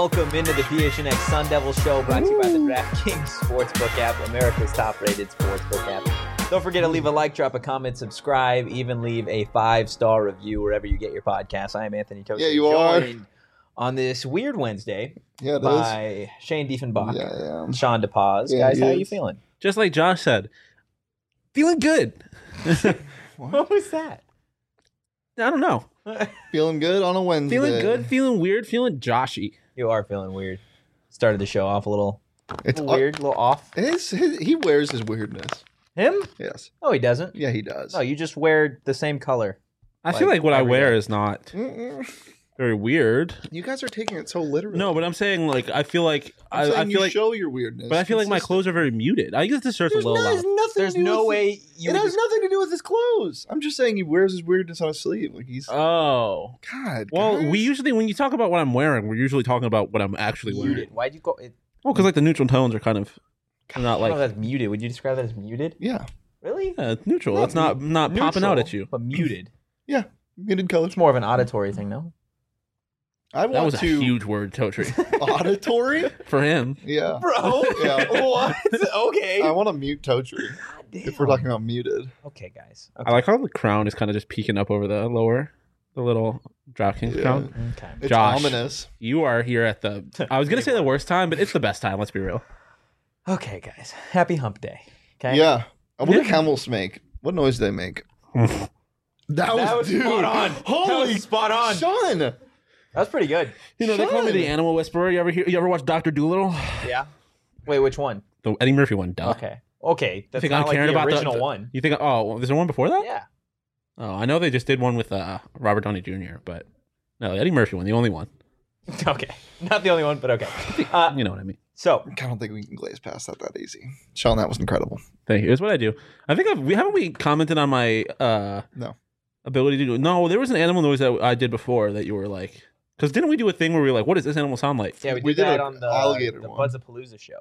welcome into the PHNX Sun Devil Show, brought to you by the DraftKings Sportsbook app, America's top-rated sportsbook app. Don't forget to leave a like, drop a comment, subscribe, even leave a 5-star review wherever you get your podcasts. I am Anthony Tosin. Yeah, you are. Joined on this weird Wednesday Yeah, it by Shane Diefenbach, Yeah. Sean DePaz. Yeah, Guys, he how are is. you feeling? Just like Josh said, feeling good. What was that? I don't know. Feeling good on a Wednesday. Feeling good, feeling weird, feeling Joshy. You are feeling weird. Started the show off a little It's weird, a little off. He wears his weirdness. Him? Yes. No, he doesn't. Yeah, he does. No, you just wear the same color. I feel like what I every wear day. is not Mm-mm. very weird. You guys are taking it so literally. No, but I'm saying like I feel like I'm saying I you feel like, show your weirdness. but I feel like my clothes are very muted. I guess this shirt's a little loud. There's no way you It would has nothing to do with his clothes. I'm just saying he wears his weirdness on his sleeve. Like he's Oh, God. well, guys. we usually when you talk about what I'm wearing, we're usually talking about what I'm actually wearing. muted. Why'd you go? Well, because like the neutral tones are kind of not I don't know like if that's muted. Would you describe that as muted? Yeah. Really? it's neutral. No, It's not popping out at you. But muted. Muted colors. It's more of an auditory thing, no? I want That was a to huge word, Totri, auditory. for him. Yeah. Bro. Yeah. What? Okay. I want to mute Totri if we're talking about muted. Okay, guys. I like how the crown is kind of just peeking up over the little DraftKings Yeah. crown. Okay. It's Josh. ominous. You are here at the. I was gonna say the worst time, but it's the best time. Let's be real. Okay, guys. Happy hump day. Okay? Yeah. I wonder Yeah. camels make. What noise do they make? That was dude. spot on. Holy That was spot on. Sean. That was pretty good. You know they call me the Sean. animal whisperer. You ever watch Doctor Dolittle? Yeah. Wait, which one? The Eddie Murphy one. Duh. Okay. Okay. That's think not I'm like caring the about original the- one. You think? Oh, well, is there one before that? Yeah. Oh, I know they just did one with Robert Downey Jr., but no, the Eddie Murphy one, the only one. Okay. Not the only one, but okay. You know what I mean. So, I don't think we can glaze past that easy. Sean, that was incredible. Thank you. Here's what I do. I think we commented on my No. ability to do. No, there was an animal noise that I did before that you were like. Because didn't we do a thing where we were like, what does this animal sound like? yeah, we We did did that a on the alligator the one. Buzzapalooza show.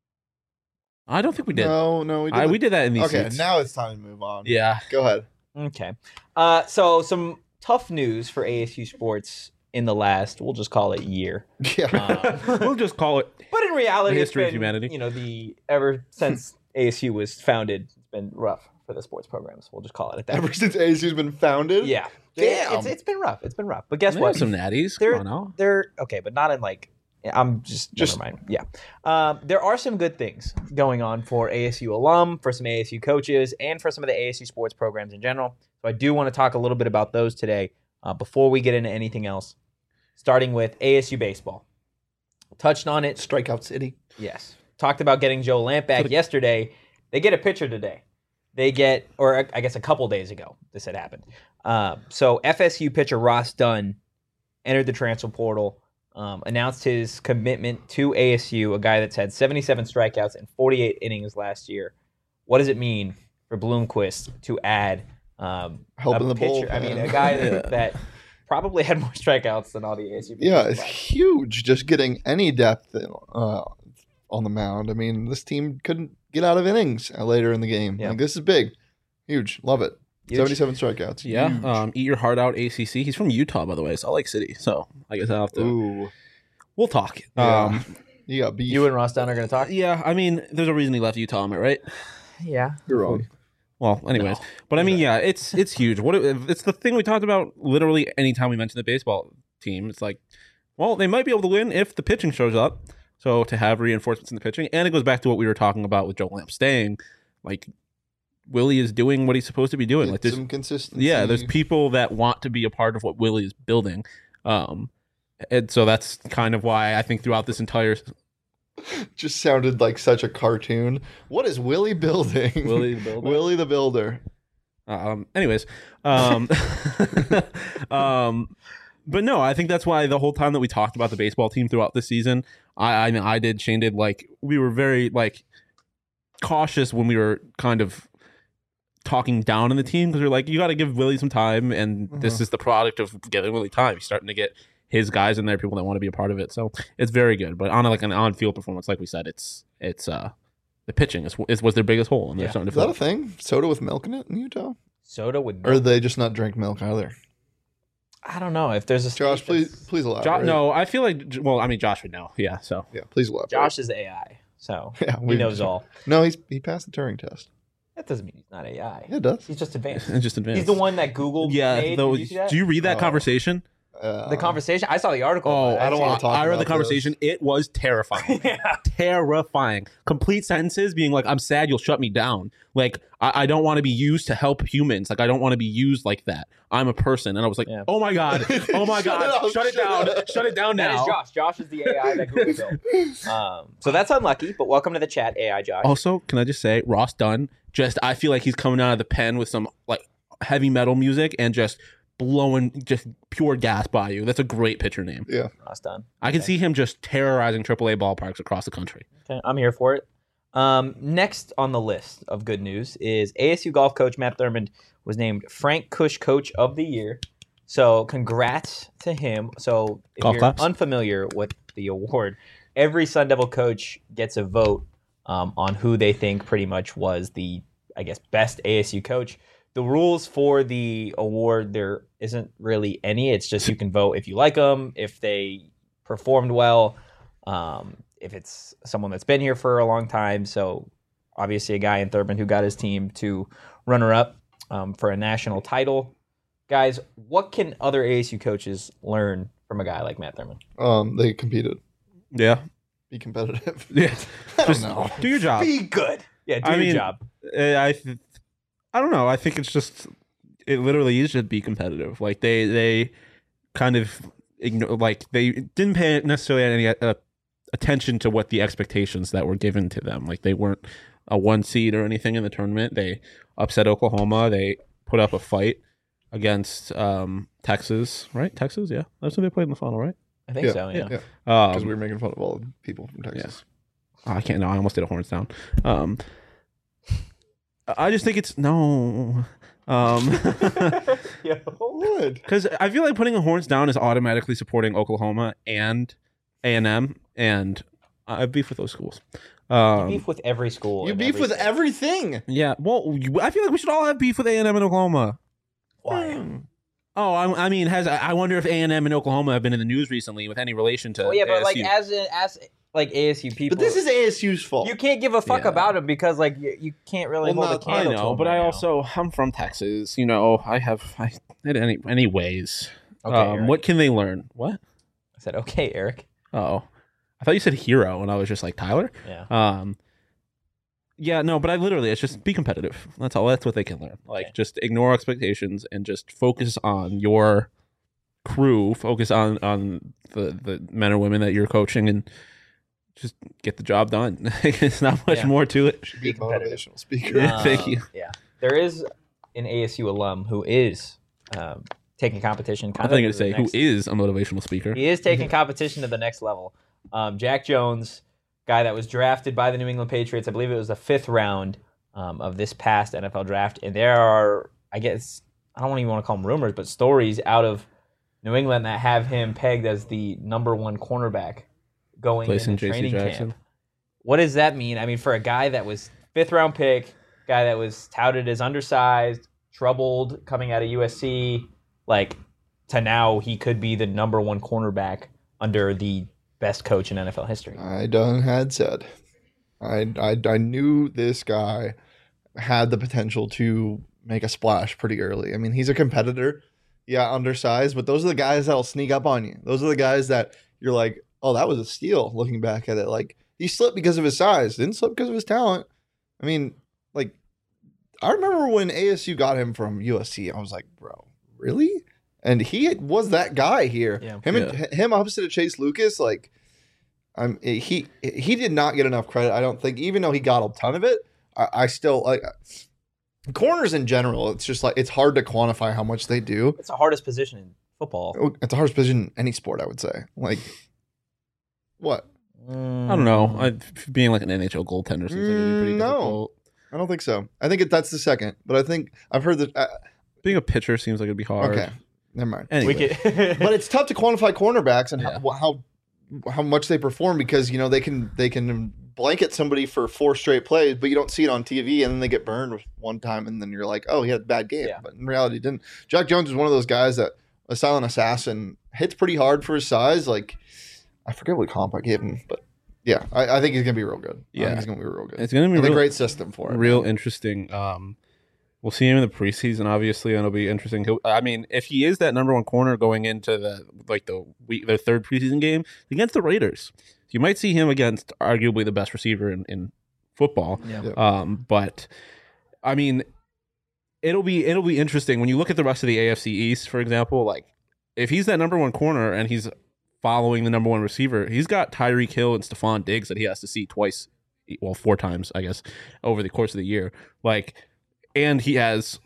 I don't think we did. No, We did that in these Okay, seats. now it's time to move on. Yeah. Go ahead. Okay. So some tough news for ASU sports in the last, we'll just call it year. Yeah. We'll just call it. But in reality, The it's history of been, humanity. you know, ever since ASU was founded, it's been rough for the sports programs. We'll just call it at that. Ever since ASU's been founded? Yeah. Damn. It's been rough. It's been rough. But guess We what? have some natties. They're- Come on now. They're okay, but not in like. I'm just never mind. Yeah, there are some good things going on for ASU alum, for some ASU coaches, and for some of the ASU sports programs in general. So I do want to talk a little bit about those today before we get into anything else. Starting with ASU baseball, touched on it. Strikeout City. Yes, talked about getting Joe Lamp back yesterday. They get a pitcher today. They get, or I guess a couple days ago, this had happened. So FSU pitcher Ross Dunn entered the transfer portal. Announced his commitment to ASU, a guy that's had 77 strikeouts and 48 innings last year. What does it mean for Bloomquist to add Helping a the pitcher? I mean, a guy that probably had more strikeouts than all the ASU pitchers. Yeah, it's last huge just getting any depth on the mound. I mean, this team couldn't get out of innings later in the game. Yeah. Like, this is big. Huge. Love it. Huge. 77 strikeouts. Yeah. Huge. Eat your heart out, ACC. He's from Utah, by the way, Salt Lake City. So I guess I'll have to. Ooh. We'll talk. Yeah. You got beef. You and Ross Dunn are going to talk? Yeah. I mean, there's a reason he left Utah, am I right? Yeah. You're wrong. Well, anyways, but I mean, yeah, it's huge. It's the thing we talked about literally anytime we mention the baseball team. It's like, well, they might be able to win if the pitching shows up. So to have reinforcements in the pitching, and it goes back to what we were talking about with Joe Lamp staying. Like, Willie is doing what he's supposed to be doing. Like, Get there's some consistency. yeah, there's people that want to be a part of what Willie is building. And so that's kind of why I think throughout this entire Just sounded like such a cartoon. What is Willie building? Willie the Builder. Willie the Builder. Anyways, but no, I think that's why the whole time that we talked about the baseball team throughout the season, I did, Shane did, like, we were very, like, cautious when we were kind of talking down on the team because we are like, you got to give Willie some time, and this is the product of giving Willie time. He's starting to get his guys in there, people that want to be a part of it. So it's very good. But on like an on-field performance, like we said, it's the pitching was their biggest hole, and they're starting Is to that fill a thing? Soda with milk in it in Utah? Soda with Or milk. they just not drink milk either? I don't know if there's a Josh, state please elaborate. No, I feel like. Well, I mean, Josh would know. Yeah. So Yeah, please elaborate. Josh is AI, so Yeah, he knows all. No, he passed the Turing test. That doesn't mean he's not AI. Yeah, it does. He's just advanced. it's just advanced. He's the one that Google made. Though, Did you see that? do you read that Oh. conversation? The conversation? I saw the article. Oh, but I don't want to talk I read about the conversation. It was terrifying. yeah. Terrifying. Complete sentences being like, I'm sad you'll shut me down. Like, I don't want to be used to help humans. Like, I don't want to be used like that. I'm a person. And I was like, Yeah. oh my God. Oh my God. Shut it down. Shut it down That now. is Josh. Josh is the AI that Google built. So that's unlucky, but welcome to the chat, AI Josh. Also, can I just say, Ross Dunn, I feel like he's coming out of the pen with some like heavy metal music and just blowing just pure gas by you. That's a great pitcher name. Yeah. Ross Dunn. I can see him just terrorizing AAA ballparks across the country. Okay, I'm here for it. Next on the list of good news is ASU golf coach Matt Thurmond was named Frank Kush Coach of the Year. So congrats to him. So if Golf you're claps. unfamiliar with the award, every Sun Devil coach gets a vote on who they think pretty much was the, I guess, best ASU coach. The rules for the award, there isn't really any. It's just you can vote if you like them, if they performed well, if it's someone that's been here for a long time. So obviously a guy in Thurman who got his team to runner-up for a national title. Guys, what can other ASU coaches learn from a guy like Matt Thurman? They competed. Yeah. Be competitive. Yeah. I Just don't know. do your job. Be good. Yeah, do I your mean, job. I don't know. I think it literally is just be competitive. Like they kind of ignore, like they didn't pay necessarily any attention to what the expectations that were given to them. Like they weren't a 1 seed or anything in the tournament. They upset Oklahoma. They put up a fight against Texas, right? Texas, yeah. That's who they played in the final, right? I think Yeah, so, yeah. Yeah. Because we were making fun of all the people from Texas. I can't. No, I almost did a horns down. I just think it's no. What? Because I feel like putting a horns down is automatically supporting Oklahoma and A&M, and I have beef with those schools. You beef with every school. You in beef every with state. everything. Yeah, well, I feel like we should all have beef with A&M and Oklahoma. Why? Oh, I mean, I wonder if A&M and Oklahoma have been in the news recently with any relation to. Well, yeah, but like ASU. as like ASU people, But this is ASU's fault. you can't give a fuck Yeah. about them because like you can't really Well, hold a no, I candle to know, them but right I now. also I'm from Texas. You know, anyways. Okay, Eric. What can they learn? What? I said okay, Eric. Oh, I thought you said hero, and I was just like Tyler. Yeah. Yeah, no, but it's just be competitive. That's all. That's what they can learn. Like, Okay. just ignore expectations and just focus on your crew. Focus on the men or women that you're coaching, and just get the job done. It's not much Yeah. more to it. Should be a Be competitive. motivational speaker. Thank you. Yeah, there is an ASU alum who is taking competition. I'm going to say who is a motivational speaker. He is taking competition to the next level. Jack Jones, guy that was drafted by the New England Patriots. I believe it was the 5th round of this past NFL draft. And there are, I guess, I don't even want to call them rumors, but stories out of New England that have him pegged as the number 1 cornerback going Placing into J.C. training Jackson. camp. What does that mean? I mean, for a guy that was 5th round pick, guy that was touted as undersized, troubled coming out of USC, like to now he could be the number 1 cornerback under the best coach in NFL history. I done had said. I knew this guy had the potential to make a splash pretty early. I mean, he's a competitor. Yeah, undersized, but those are the guys that'll sneak up on you. Those are the guys that you're like, oh, that was a steal looking back at it. Like, he slipped because of his size, didn't slip because of his talent. I mean, like, I remember when ASU got him from USC, I was like, bro, really? And he was that guy here. Yeah. Him opposite of Chase Lucas, like, he did not get enough credit, I don't think, even though he got a ton of it. I still like corners in general. It's just like it's hard to quantify how much they do. It's the hardest position in football. It's the hardest position in any sport, I would say. Like, what? I don't know. Being like an NHL goaltender seems like it'd be pretty No. difficult. I don't think so. I think that's the second, but I think I've heard that. Being a pitcher seems like it'd be hard. Okay, never mind. Anyway. We could, But it's tough to quantify cornerbacks and Yeah. how much they perform because they can blanket somebody for 4 straight plays, but you don't see it on TV, and then they get burned one time, and then you're like, oh, he had a bad game. Yeah. But in reality, he didn't. Jack Jones is one of those guys that a silent assassin. Hits pretty hard for his size. Like, I forget what comp I gave him, but yeah, I think he's gonna be real good. I Yeah. think he's gonna be real good. It's going to be a great system for it. real man. interesting. We'll see him in the preseason, obviously, and it'll be interesting. I mean, if he is that number one corner going into the third preseason game against the Raiders, you might see him against arguably the best receiver in football. Yeah. But I mean, it'll be interesting when you look at the rest of the AFC East, for example. Like, if he's that number one corner and he's following the number one receiver, he's got Tyreek Hill and Stephon Diggs that he has to see four times, I guess, over the course of the year. Like, and he has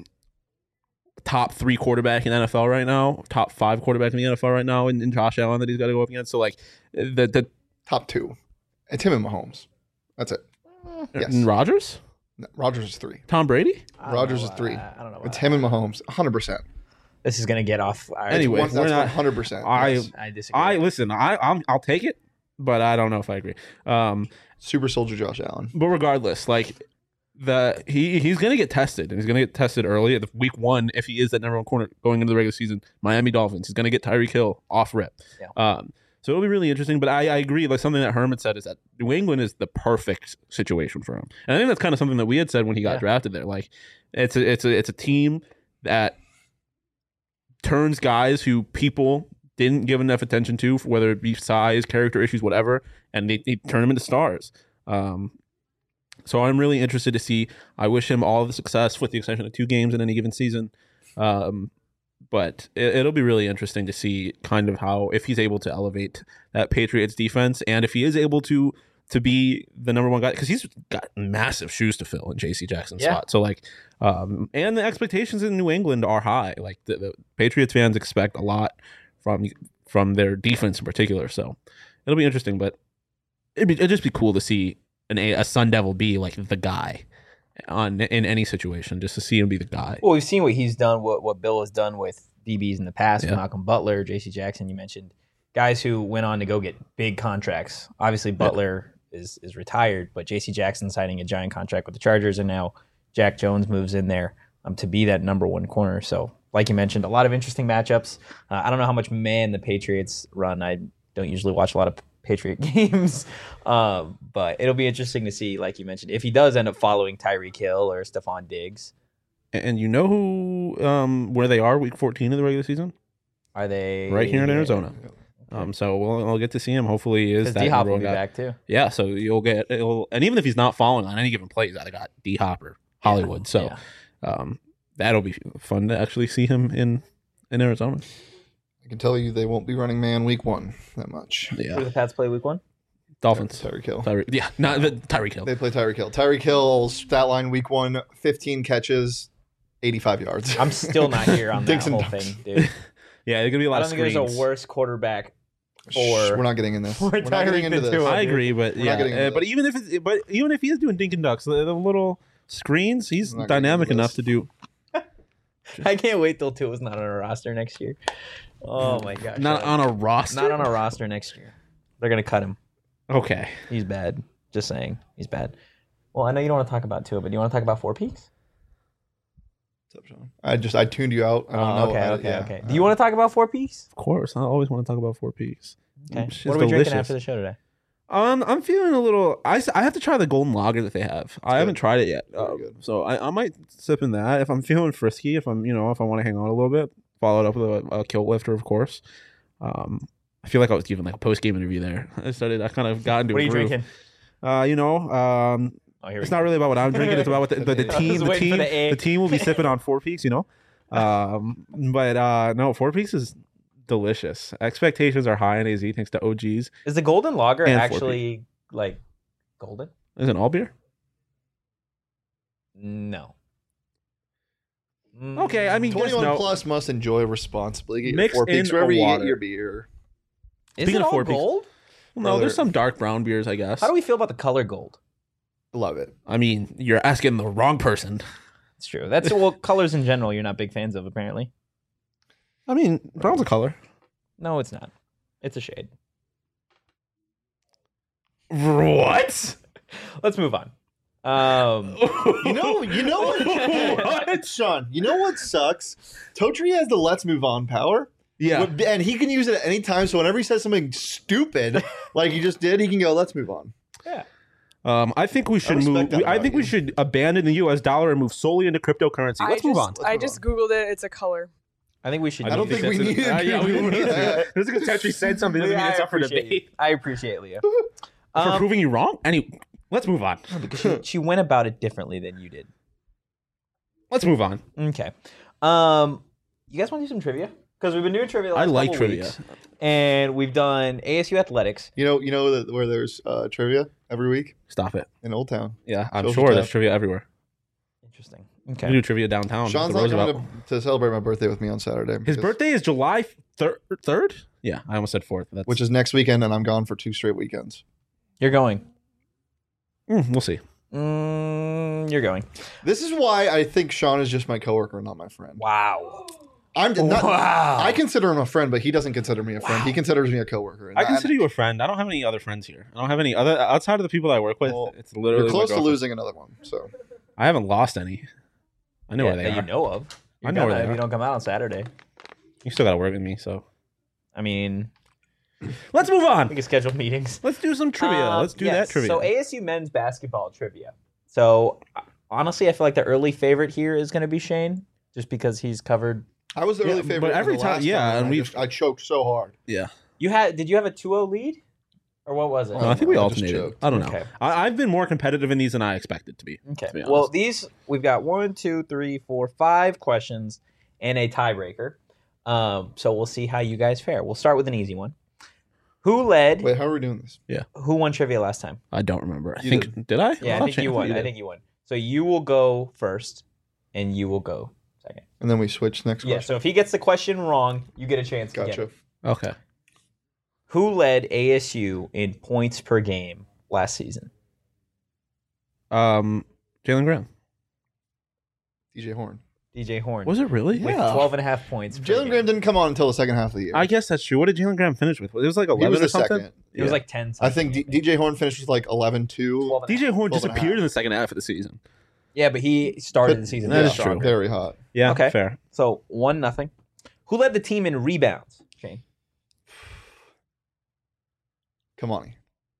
top 3 quarterback in the NFL right now, top 5 quarterback in the NFL right now, in Josh Allen that he's got to go up against. So, like, the top 2. It's him and Mahomes. That's it. Yes. and Rodgers, No, Rodgers is 3. Tom Brady. Rodgers is 3. I don't know. It's him and Mahomes, 100%. This is gonna get off. Anyway, That's we're not- 100%. yes. I disagree. I'll take it, but I don't know if I agree. Super soldier Josh Allen. But regardless, like he's gonna get tested, and he's gonna get tested early at week 1 if he is that number one corner going into the regular season. Miami Dolphins. He's gonna get Tyreek Hill off rip. Yeah. So it'll be really interesting. But I agree. Like, something that Herman said is that New England is the perfect situation for him, and I think that's kind of something that we had said when he got Yeah. drafted there. Like, it's a team that turns guys who people didn't give enough attention to, whether it be size, character issues, whatever, and they turn them into stars. So I'm really interested to see. I wish him all the success, with the exception of 2 games in any given season. But it'll be really interesting to see kind of how, if he's able to elevate that Patriots defense, and if he is able to be the number one guy, because he's got massive shoes to fill in J.C. Jackson's Yeah. spot. So, like, and the expectations in New England are high. Like, the Patriots fans expect a lot from their defense in particular. So it'll be interesting, but it'd just be cool to see a Sun Devil be like the guy in any situation, just to see him be the guy. Well, we've seen what he's done, what Bill has done with DBs in the past, Yeah. with Malcolm Butler, J.C. Jackson. You mentioned guys who went on to go get big contracts. Obviously, Butler is retired, but J.C. Jackson signing a giant contract with the Chargers, and now Jack Jones moves in there to be that number one corner. So, like you mentioned, a lot of interesting matchups. I don't know how much man the Patriots run. I don't usually watch a lot of Patriot games, but it'll be interesting to see, like you mentioned, if he does end up following Tyreek Hill or Stephon Diggs. And you know where they are week 14 of the regular season? Are they Right here in Arizona. So we'll get to see him. Hopefully he is Because that D-Hop number will one be guy. back too. Yeah, so and even if he's not following on any given play, he's either got D-Hop or Hollywood. So that'll be fun to actually see him in Arizona. I can tell you they won't be running man week 1 that much. Who do Yeah, the Pats play week 1? Dolphins. Tyreek Hill. Not Tyreek Hill. They play Tyreek Hill. Tyreek Hill's stat line week 1, 15 catches, 85 yards. I'm still not here on that Dinks and whole dunks. thing, dude. Yeah, there's gonna be a I lot don't of think screens. there's a worse quarterback Shh, for we're not getting in this. for We're not getting Tyreek into than this. Tua. I agree, but We're not getting into but this. even if he is doing dink and ducks, the little screens, he's We're not getting dynamic into enough this. to do. I can't wait till Tua's not on a roster next year. Oh my gosh. Not on a roster. Not on a roster next year. They're gonna cut him. Okay. He's bad. Just saying. He's bad. Well, I know you don't want to talk about Tua, but do you want to talk about Four Peaks? What's up, Sean? I tuned you out. I don't know. Okay. Do you want to talk about Four Peaks? Of course, I always want to talk about 4 Ps. Okay. Shit's What are we drinking delicious. after the show today? I'm feeling a little. I have to try the golden lager that they have. I haven't tried it yet, Very good. so I might sip in that if I'm feeling frisky. If I want to hang on a little bit, follow it up with a kilt lifter, of course. I feel like I was giving like a post game interview there. I kind of got into What are a you groove. drinking? Oh, Oh, here it's we not go. really about what I'm drinking. It's about what the I team. was The waiting for team. the egg. The team will be sipping on 4 Peaks. But no, 4 Peaks is delicious. Expectations are high in AZ thanks to OGs. Is the golden lager And 4 actually like golden? Is it all beer? No. Okay, I mean, 21 no. plus must enjoy responsibly. Get your Mix 4 Peaks in wherever a you water. get your beer. Is Speaking it of all 4 Peaks- gold? No, there's some dark brown beers, I guess. How do we feel about the color gold? Love it. I mean, you're asking the wrong person. It's true. That's well, colors in general. You're not big fans of, apparently. I mean, brown's a color. No, it's not. It's a shade. What? Let's move on. You know what? Sean, you know what sucks? Totri has the let's move on power, Yeah. And he can use it at any time. So whenever he says something stupid, like he just did, he can go, let's move on. Yeah. I think we should respect that I about think we you. should abandon the U.S. dollar and move solely into cryptocurrency. Let's move on. I just Googled it. It's a color. I think we should. I don't think we that's need to yeah, we Google need to. that. Just because Tetri said something doesn't mean it's up for debate. I appreciate Leah. For proving you wrong? Let's move on. Because she went about it differently than you did. Let's move on. Okay. You guys want to do some trivia? Because we've been doing trivia the last I like couple trivia. weeks, and we've done ASU athletics. You know that where there's trivia every week Stop it. in Old Town. Yeah, I'm Social sure tap. there's trivia everywhere. Interesting. We Okay. do trivia downtown. Sean's at not the Roosevelt. coming to celebrate my birthday with me on Saturday. His because- birthday is July 3rd? Yeah, I almost said 4th. That's, which is next weekend, and I'm gone for 2 straight weekends. You're going. we'll see. You're going. This is why I think Sean is just my coworker, not my friend. Wow. I'm not. Wow. I consider him a friend, but he doesn't consider me a friend. He considers me a coworker. And I consider you a friend. I don't have any other friends here. I don't have any other outside of the people I work with. Well, It's literally You're close my to girlfriend. losing another one. So I haven't lost any. I know where they that are. you know of. I know where they If are. you don't come out on Saturday. You still got to work with me, so I mean, let's move we on. can schedule meetings. Let's do some trivia. Let's do Yes, that trivia. So ASU men's basketball trivia. So honestly, I feel like the early favorite here is going to be Shane, just because he's covered. I was the Yeah, early but favorite. every the time- last yeah, and I choked so hard. yeah. Did you have a 2-0 lead, or what was it? Oh, No, I think we I just alternated. choked. I don't know. Okay. I've been more competitive in these than I expected to be. Okay. To be Well, honest. these we've got 1, 2, 3, 4, 5 questions and a tiebreaker. So we'll see how you guys fare. We'll start with an easy one. Who led? Wait, how are we doing this? Who won trivia last time? I don't remember. I You think did I? Yeah, I thought think Shane- you won. I did. think you won. So you will go first, and you will go second. And then we switch next Yeah. question. So if he gets the question wrong, you get a chance to get Gotcha. it. Okay. Who led ASU in points per game last season? Jalen Graham. DJ Horn. DJ Horn. Was it really? with Yeah. 12.5 points. per Jalen game. Graham didn't come on until the second half of the year. I guess that's true. What did Jalen Graham finish with? It was like 11 he was or the something. second. It was like 10. I think DJ Horn finished with like 11-2. 12 and a DJ half. Horn 12 and a disappeared half. in the second half of the season. Yeah, but he started the season. That very is strong. true. Very hot. Yeah. Okay. Fair. So 1-0. Who led the team in rebounds? Shane. Kamani.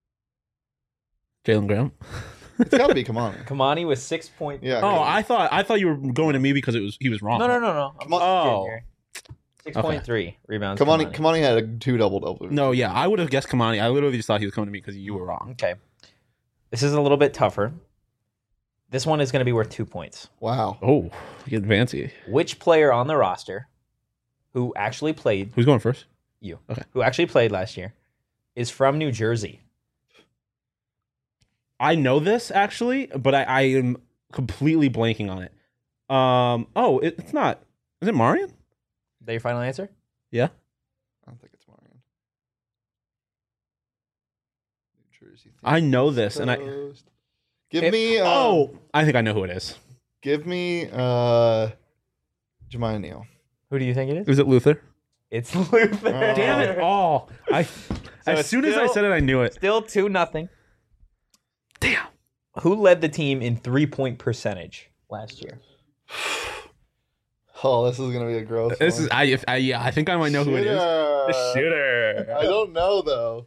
Jalen Graham. It's got to be Kamani. Kamani was 6 point. Yeah. Oh, I thought you were going to me because he was wrong. No. I'm Come on. just kidding Oh. here. 6.3 rebounds. Kamani had a 2 double-double. No, yeah, I would have guessed Kamani. I literally just thought he was coming to me because you were wrong. Okay. This is a little bit tougher. This one is going to be worth 2 points. Wow. Oh, you get fancy. Which player on the roster who actually played Who's going first? who actually played last year is from New Jersey? I know this actually, but I am completely blanking on it. It's not. Is it Marion? Is that your final answer? Yeah. I don't think it's Marion. New Jersey. I know this, and I. Coast. Give If- me. I think I know who it is. Give me. Jemiah Neal. Who do you think it is? Is it Luther? It's Luther. Oh. Damn it! Oh, as it's soon as I still- said it, I knew it. Still 2-0. Damn. Who led the team in 3-point percentage last year? Oh, this is gonna be a gross. This one. is I think I might know who it is. The shooter. I don't know though.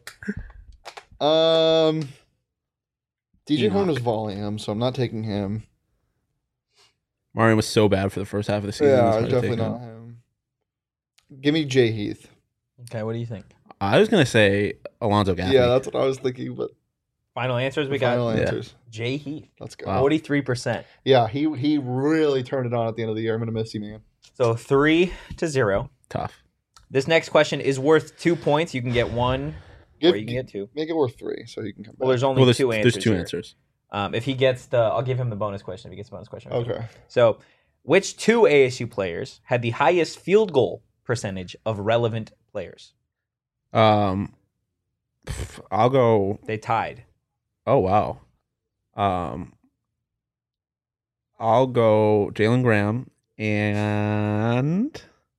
DJ Horn was volume, so I'm not taking him. Marion was so bad for the first half of the season. Yeah, it's hard to definitely take not him. him. Give me Jay Heath. Okay, what do you think? I was gonna say Alonzo Gaffney. Yeah, that's what I was thinking, but Final answers we final got. Yeah. answers. Jay Heath, Let's go. Wow. 43%. Yeah, he really turned it on at the end of the year. I'm gonna miss you, man. So 3-0. Tough. This next question is worth 2 points. You can get one, or you can get two. Make it worth 3, so you can come back. Well, there's only Well, two answers. there's two here. answers. If he gets I'll give him the bonus question. If he gets the bonus question. Okay. So, which two ASU players had the highest field goal percentage of relevant players? I'll go. They tied. Oh wow. I'll go Jalen Graham and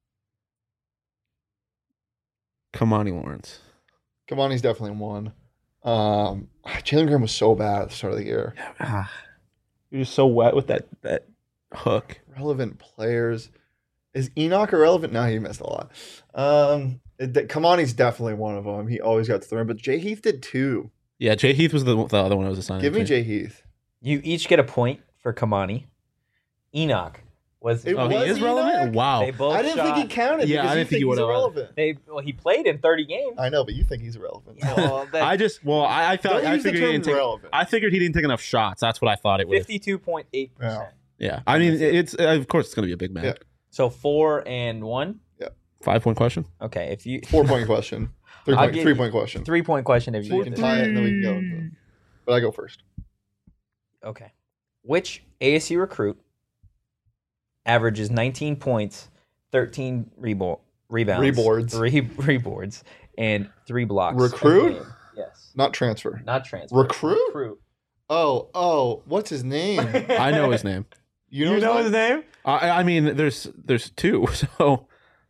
Kamani Lawrence. Kamani's definitely one. Jalen Graham was so bad at the start of the year. He was so wet with that hook. Relevant players. Is Enoch irrelevant? No, he missed a lot. Kamani's definitely one of them. He always got to the rim, but Jay Heath did too. Yeah, Jay Heath was the other one I was assigning. Give me to. Jay Heath. You each get a point for Kamani. Enoch was. It Oh, he was is relevant. Enoch? Wow. They both I didn't shot. think he counted. Yeah, because I you didn't think he he's would've. irrelevant. He played in 30 games. I know, but you think he's irrelevant. Well, that- I Don't use the figured he term didn't take. relevant. I figured he didn't take enough shots. That's what I thought it was. 52.8%. Yeah. Yeah, I mean, it's of course it's gonna be a big man. Yeah. So 4 and 1. 5-point question. Okay, if you 4-point question. I'll give you 3-point question. 3-point question if So you you can get tie it and then we can go. But I go first. Okay. Which ASU recruit averages 19 points, 13 rebounds, reboards, and 3 blocks? Recruit? a game? Yes. Not transfer. Not transfer. Recruit? Oh, what's his name? I know his name. You know his name? name? I mean, there's 2. So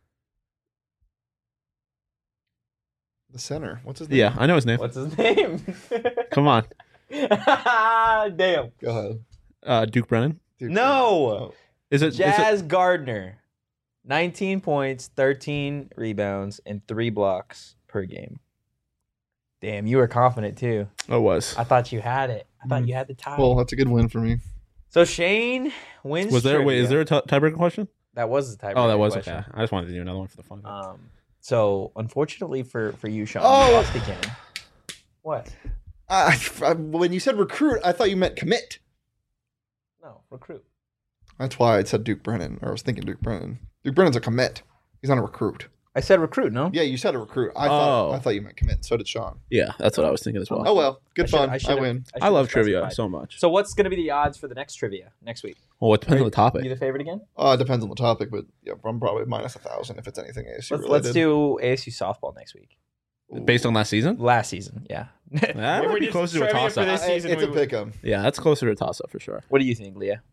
The center. What's his name? yeah, I know his name. What's his name? Come on, Damn. Go ahead. Duke Brennan. Dude, No. oh. Is it? Jazz Gardner. 19 points, 13 rebounds, and 3 blocks per game. Damn, you were confident too. Oh, it was. I thought you had it. I thought you had the tie. Well, that's a good win for me. So Shane wins. Was there? Wait, trivia. is there a tiebreaker question? That was the tiebreaker. Oh, that was question. okay. I just wanted to do another one for the fun. of it. So unfortunately for you, Sean, Oh! you lost again. What? When you said recruit, I thought you meant commit. No, recruit. That's why I said Duke Brennan, or I was thinking Duke Brennan. Duke Brennan's a commit. He's not a recruit. I said recruit. No. Yeah, you said a recruit. I Oh. thought you meant commit. So did Sean. Yeah, that's what I was thinking as well. Oh well, good I should- fun. I I, should've- win. I love should've trivia specified. so much. So what's going to be the odds for the next trivia next week? Well, it depends on the topic. You the favorite again? It depends on the topic, but yeah, I'm probably minus 1,000 if it's anything ASU related. Let's do ASU softball next week. Based on last season? Last season, yeah. That might be closer to a toss up. It's a pick 'em. Yeah, that's closer to a toss up for sure. What do you think, Leah?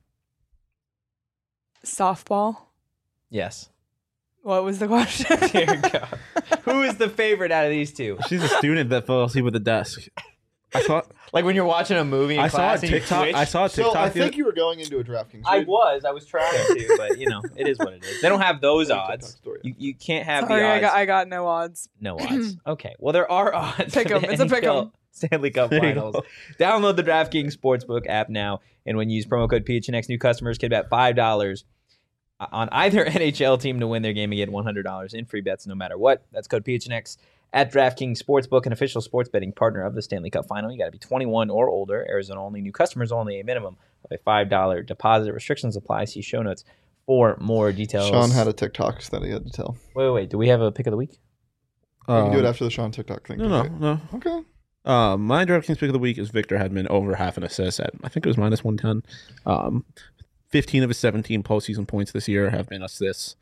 Softball. Yes. What was the question? Dear God. Who is the favorite out of these two? She's a student that fell asleep at the desk. I saw. Like when you're watching a movie in I saw a class and you TikTok. twitch? I saw a TikTok. So I think you were going into a DraftKings. I was trying to, but it is what it is. They don't have those TikTok odds. story. You can't have Sorry, the odds. I got no odds. No odds. Okay. Well, there are odds. Pick for 'em. the It's a pick 'em. NHL Stanley Cup There you Finals. go. Download the DraftKings Sportsbook app now, and when you use promo code PHNX, new customers can bet $5 on either NHL team to win their game and get $100 in free bets no matter what. That's code PHNX at DraftKings Sportsbook, an official sports betting partner of the Stanley Cup Final. You got to be 21 or older. Arizona only. New customers only. A minimum of a $5 deposit. Restrictions apply. See show notes for more details. Sean had a TikTok that he had to tell. Wait. Do we have a pick of the week? We can do it after the Sean TikTok thing. No. Okay. My DraftKings pick of the week is Victor Hedman over half an assist at I think it was minus 110. 15 of his 17 postseason points this year have been assists.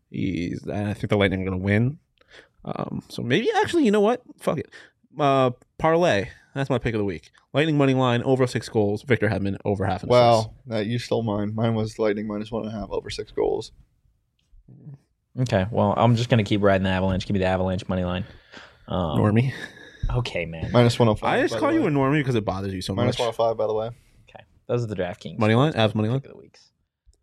I think the Lightning are going to win. So maybe actually, you know what? Fuck it. Parlay. That's my pick of the week. Lightning money line over 6 goals. Victor Hedman over half an assist. Wow, you stole mine. Mine was Lightning minus 1.5 over 6 goals. Okay. Well, I'm just going to keep riding the Avalanche. Give me the Avalanche money line. Normie. Okay, man. Minus 105. I just call you a normie because it bothers you so minus much. 105, by the way. Okay. Those are the DraftKings. Money line? Avs money line? Pick of the weeks.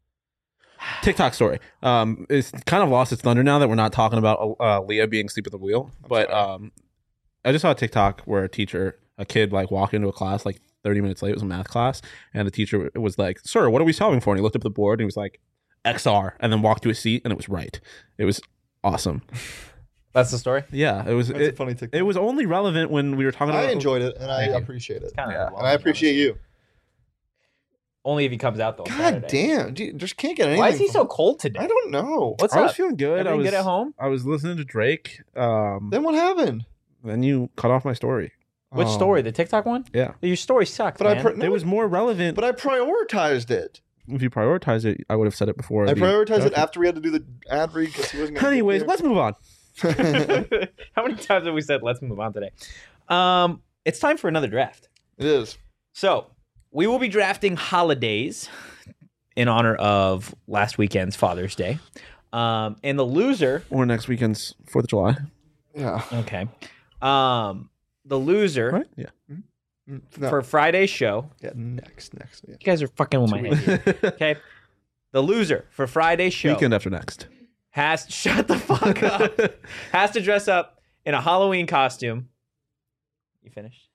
TikTok story. It's kind of lost its thunder now that we're not talking about Leah being asleep at the wheel. But I just saw a TikTok where a kid like walked into a class like 30 minutes late. It was a math class, and the teacher was like, "Sir, what are we solving for?" And he looked up at the board and he was like, "XR," and then walked to his seat, and it was right. It was awesome. That's the story? Yeah, it was. That's a It, funny TikTok. it was only relevant when we were talking about. I enjoyed it, and I Thank you. appreciate it. Kind of And I appreciate you. Only if he comes out, though. on God Saturday. damn. Dude, just can't get anything. Why is he from- so cold today? I don't know. What's I was up? feeling good. Everything good at home? I was listening to Drake. Then what happened? Then you cut off my story. Which story? The TikTok one? Yeah, Your story sucked, But man. it was more relevant. But I prioritized it. If you prioritize it, I would have said it before. I the- prioritized it Okay. after we had to do the ad read because he wasn't. Anyways, let's move on. How many times have we said let's move on today? It's time for another draft. It is. So we will be drafting holidays in honor of last weekend's Father's Day. And the loser. Or next weekend's 4th of July. Yeah. Okay. The loser Right? Yeah. No. for Friday's show. Yeah. Next. Yeah. You guys are fucking with my head here. Okay. The loser for Friday's show Weekend after next. shut the fuck up. Has to dress up in a Halloween costume. You finished?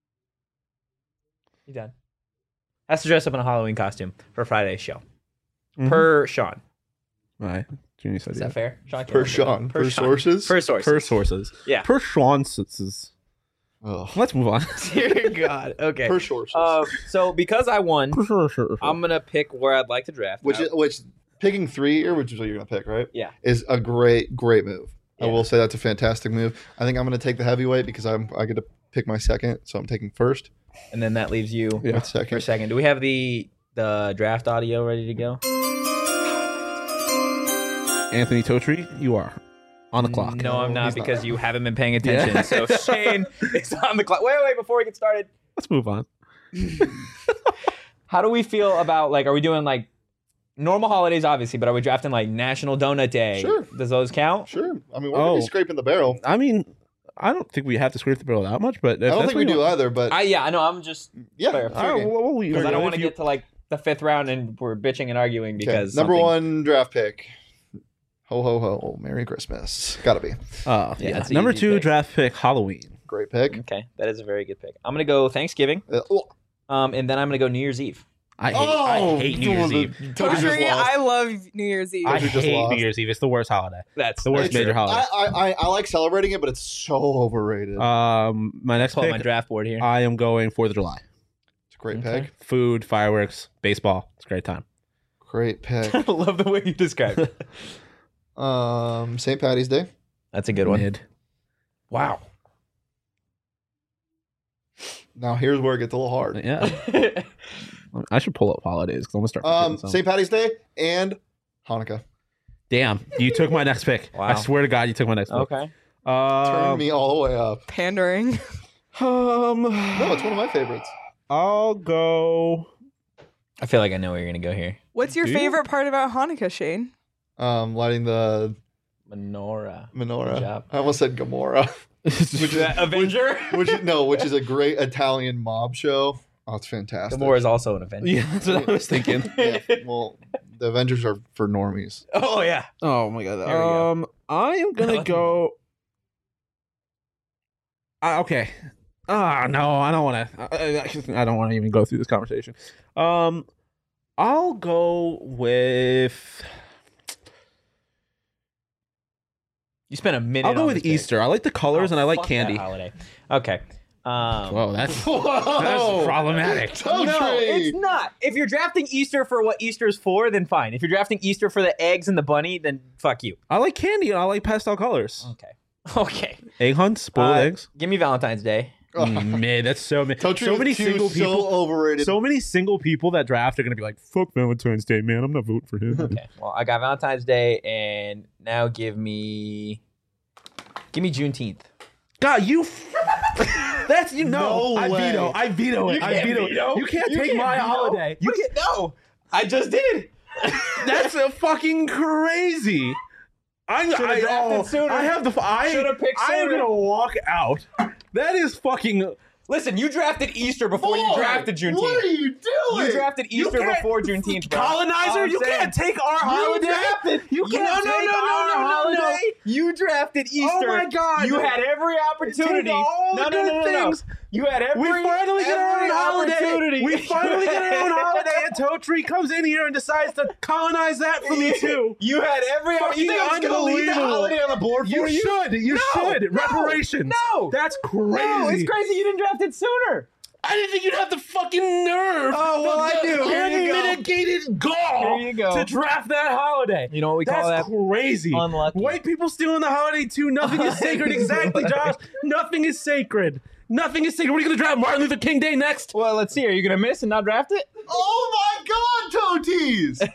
You done? Has to dress up in a Halloween costume for Friday's show. Mhm. Per Sean. All right. Junior said Is yeah. that fair? Sean, Per Sean. Per sources. Per sources. Per sources. Yeah. Per Schwanz's. Ugh. Let's move on. Dear God. Okay. Per sources. So because I won, Sure. I'm gonna pick where I'd like to draft. which picking 3 here, which is what you're gonna pick, right? Yeah. Is a great move. I Yeah. will say that's a fantastic move. I think I'm gonna take the heavyweight because I get to pick my second, so I'm taking first. And then that leaves you Yeah. With for second. second. Do we have the draft audio ready to go? Anthony Totri, you are on the clock. No, I'm not he's not. because you haven't been paying attention. Yeah. So Shane is on the clock. Wait, before we get started. Let's move on. How do we feel about are we doing normal holidays obviously, but are we drafting National Donut Day? Sure. Does those count? Sure. I mean, we're gonna be Oh. scraping the barrel. I mean, I don't think we have to scrape the barrel that much, but I don't think we do either, but I know. I'm just yeah. fair. fair game. because I don't want to get to the fifth round and we're bitching and arguing Okay, because number something- 1 draft pick. Ho ho ho! Merry Christmas. Gotta be Yeah, it's an Number easy 2 pick. draft pick, Halloween. great pick. Okay, that is a very good pick. I'm gonna go Thanksgiving, Oh, and then I'm gonna go New Year's Eve. I hate New Year's Eve. Toby just Totri, lost. I love New Year's Eve. I Toby just hate lost. New Year's Eve. It's the worst holiday. That's The worst It's- major holiday. I like celebrating it, but it's so overrated. My next Pull up my pick, draft board here. I am going 4th of July. It's a great okay. pick. Food, fireworks, baseball. It's a great time. Great pick. I love the way you described it. St. Patty's Day. That's a good one. Mid. Wow. Now here's where it gets a little hard. Yeah. I should pull up holidays because I'm gonna start. forgetting some. St. Patty's Day and Hanukkah. Damn, you took my next pick. Wow. I swear to God, you took my next pick. Okay. Turn me all the way up. Pandering. No, it's one of my favorites. I'll go. I feel like I know where you're gonna go here. What's your Do you? favorite part about Hanukkah, Shane? Lighting the Menorah. Good menorah. job. I almost said Gomorrah. Avenger. which is a great Italian mob show. Oh, it's fantastic. Gamora is also an Avenger. Yeah, that's what I was thinking. Yeah, well, the Avengers are for normies. Oh yeah. Oh my God. There we go. I am gonna go. Okay. No, I don't want to. I don't want to even go through this conversation. I'll go with. You spent a minute. I'll go on with this pick. Easter. I like the colors Oh, and I like fuck candy. that holiday. Okay. Whoa, that's Whoa! problematic. Totri! No, it's not. If you're drafting Easter for what Easter's for, then fine. If you're drafting Easter for the eggs and the bunny, then fuck you. I like candy and I like pastel colors. Okay. Okay. Egg hunts, spoiled eggs. Give me Valentine's Day. Man, that's so many. Totri So with many Q single so people. overrated. So many single people that draft are gonna be like, "Fuck Valentine's Day, man. I'm not voting for him." Okay. Well, I got Valentine's Day, and now give me Juneteenth. God, you. That's you know. No I way. veto. I veto it. You I can't veto. veto. You can't You take can't my veto. holiday. You can't. No, I just did. That's a fucking crazy. Should've drafted sooner. I have the. Should've picked I am sooner. gonna walk out. That is fucking. Listen, you drafted Easter before you Boy, drafted Juneteenth. What are you doing? You drafted Easter can't- before Juneteenth, bro. Colonizer, I'm you saying. can't take our holiday. You can't No, take our holiday. You drafted Easter. Oh my God. You had every opportunity. Take all the good things. You had every. We finally get our own every holiday. opportunity. We finally get our own holiday, and Totri comes in here and decides to colonize that for me too. You had every. Fucking You think I was gonna leave that unbelievable. holiday on the board for You you? should. You No, should. no, Reparations. no. That's crazy. No, it's crazy you didn't draft it sooner. I didn't think you'd have the fucking nerve. Oh, well, I do. Here you go. Unmitigated gall Here you go. to draft that holiday. You know what we call That's that? crazy. Unlucky. White people stealing the holiday too. Nothing is sacred. Exactly, Josh. Nothing is sacred. Nothing is sacred. What are you going to draft Martin Luther King Day next? Well, let's see. Are you gonna miss and not draft it? Oh my God, Toties!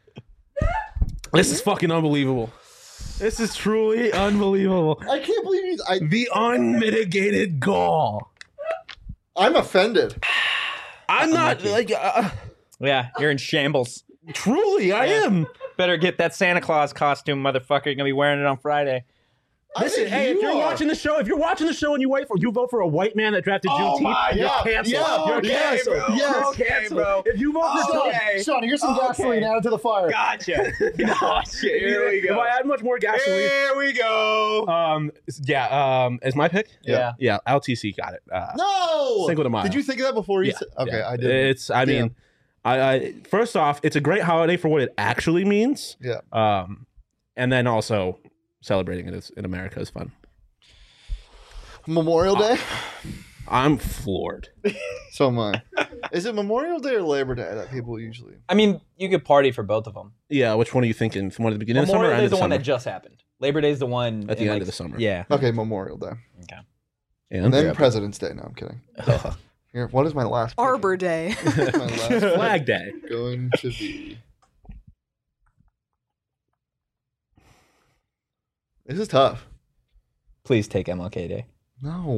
This is fucking unbelievable. This is truly unbelievable. I can't believe you. The unmitigated gall. I'm offended. I'm not like Yeah, you're in shambles. truly. I am. Better get that Santa Claus costume, motherfucker. You're gonna be wearing it on Friday. Listen, hey, if you're watching the show, and you vote for a white man that drafted Juneteenth, you're canceled. You're canceled. Bro. Yes. Okay, bro. If you vote for Okay. Sean, here's some gasoline added to the fire. Gotcha. Gotcha. Here we go. If I add much more gasoline, Here we go. is my pick? Yeah. Yeah, LTC got it. No! Cinco de Mayo. Did you think of that before you Yeah, said? Okay, yeah. I did. It's. I mean, I first off, it's a great holiday for what it actually means. Yeah. And then also celebrating it in America is fun. Memorial Day? I'm floored. So am I. Is it Memorial Day or Labor Day that people usually? I mean, you could party for both of them. Yeah, which one are you thinking? From one at the beginning Memorial of Day the is the summer? one that just happened. Labor Day is the one At the in, end like, of the summer. Yeah. Okay, Memorial Day. Okay. And then President's Day. No, I'm kidding. Here, what is my last pick? Arbor Day. My last pick Flag Day. going to be. This is tough. Please take MLK Day. No.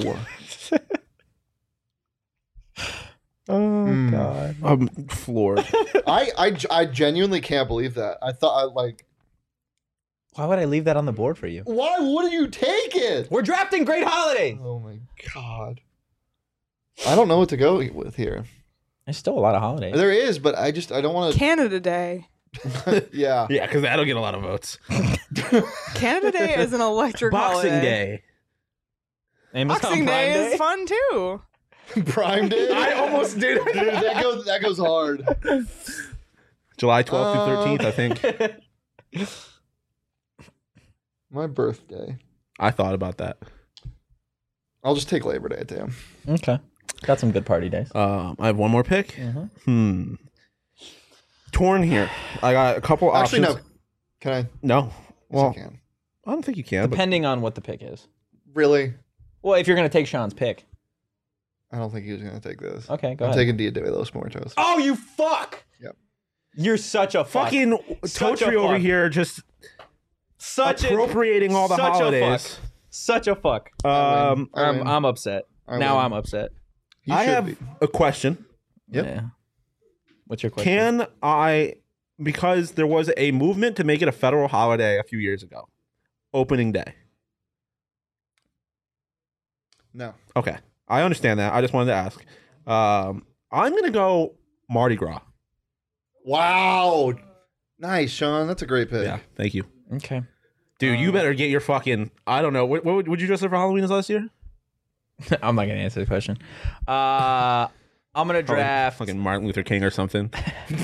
Oh God. I'm floored. I genuinely can't believe that. I thought Why would I leave that on the board for you? why wouldn't you take it? We're drafting great holidays. Oh my god. I don't know what to go with here. There's still a lot of holidays. There is, but I don't want Canada Day. to. Yeah. Yeah, because that'll get a lot of votes. Canada Day is an electric Boxing holiday. Day. Amazon Boxing Prime Day is fun too. Prime Day. I almost did. Dude, that goes hard. July 12th through 13th, I think. My birthday. I thought about that. I'll just take Labor Day, damn. Okay. Got some good party days. I have one more pick. Mm-hmm. Torn here. I got a couple Actually, options. no. Can I? No. Well, Yes, I can. I don't think you can. But Depending on what the pick is. Really? Well, if you're going to take Sean's pick. I don't think he was going to take this. Okay, go I'm ahead. taking Dia de los Muertos. Oh, you fuck! Yep. You're such a fuck. fucking Such a Totri over fuck. here just Such appropriating all the such holidays. A fuck. Such a fuck. I win. I'm upset. I Now win. I'm upset. He I should have be. a question. Yep. Yeah. What's your question? Can I, because there was a movement to make it a federal holiday a few years ago, opening day. No. Okay. I understand that. I just wanted to ask. I'm going to go Mardi Gras. Wow. Nice, Sean. That's a great pick. Yeah. Thank you. Okay. Dude, you better get your fucking, I don't know. What would you dress up for Halloween this last year? I'm not gonna answer the question. I'm gonna draft. Fucking Martin Luther King or something.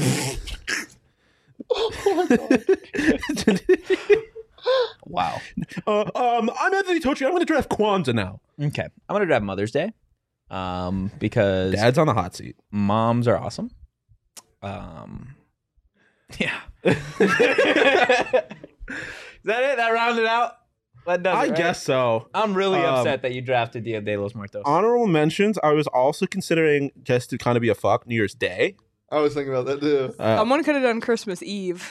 Wow. I'm Anthony Totri. I'm going to draft Kwanzaa now. Okay. I'm gonna draft Mother's Day. Because Dad's on the hot seat. moms are awesome. Yeah. Is that it? That rounded out? That does it, I right? guess so. I'm really upset that you drafted Dia de los Muertos. Honorable mentions. I was also considering just to kind of be a fuck New Year's Day. I was thinking about that too. Someone could have done Christmas Eve.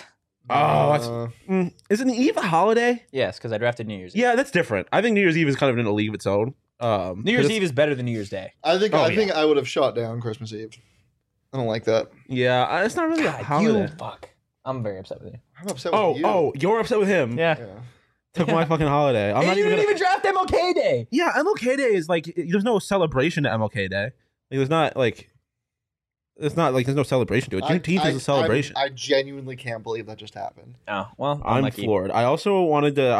Isn't Eve a holiday? Yes, because I drafted New Year's Eve. Yeah, that's different. I think New Year's Eve is kind of in a league of its own. New Year's Eve is better than New Year's Day. I think Oh, I yeah. think I would have shot down Christmas Eve. I don't like that. Yeah, it's not really a holiday. You fuck. I'm very upset with you. I'm upset with you. Oh, you're upset with him. Yeah. Yeah. Took my fucking holiday. I'm And not you even didn't gonna... even draft MLK Day. Yeah, MLK Day is like there's no celebration to MLK Day. Like, there's not like it's not like there's no celebration to it. Juneteenth is a celebration. I genuinely can't believe that just happened. Oh well, I'm lucky. floored. I also wanted to.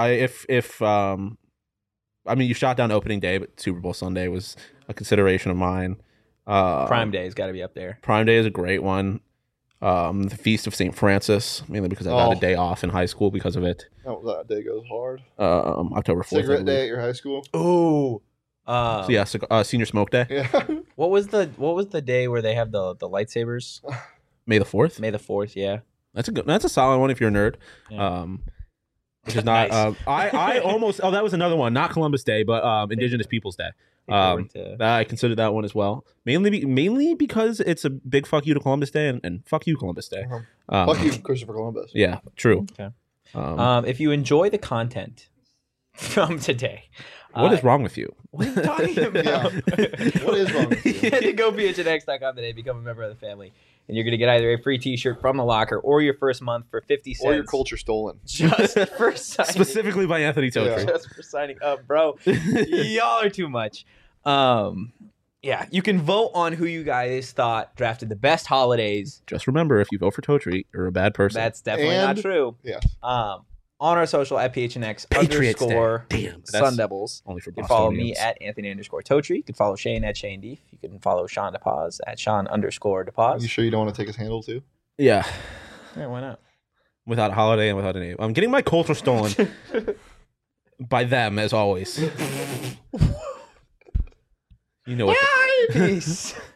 I mean, you shot down opening day, but Super Bowl Sunday was a consideration of mine. Prime Day's got to be up there. Prime Day is a great one. The Feast of St. Francis, mainly because I had a day off in high school because of it. Oh, that day goes hard. October 4th. Cigarette day at your high school. Ooh. So yeah, Senior Smoke Day, Yeah. What was the day where they have the lightsabers? May the 4th. May the 4th. Yeah. That's a solid one if you're a nerd. Yeah. Which is not. Nice. I almost. Oh, that was another one. Not Columbus Day, but Indigenous Peoples Day. I considered that one as well. Mainly because it's a big fuck you to Columbus Day and fuck you Columbus Day. Fuck you, Christopher Columbus. Yeah, true. Okay. If you enjoy the content from today, What is wrong with you? what are you talking about? What is wrong with you? Head to gophnx.com today. Become a member of the family. and you're going to get either a free T-shirt from the locker or your first month for 50 cents. Or your culture stolen. Just for signing. Specifically by Anthony Totri. Just for signing up, bro. Y'all are too much. Yeah, you can vote on who you guys thought drafted the best holidays. Just remember, if you vote for Totri, you're a bad person. That's definitely And- not true. Yeah. On our social at PHNX Patriots _. Day. Damn. Sun Devils. Only for You can follow me Bostonians. at Anthony _Totri. You can follow Shane at Shane Deef. You can follow Sean DePaz at Sean _DePaz. You sure you don't want to take his handle too? Yeah. Yeah, why not? Without a holiday and without a name. I'm getting my culture stolen by them, as always. You know what? Peace.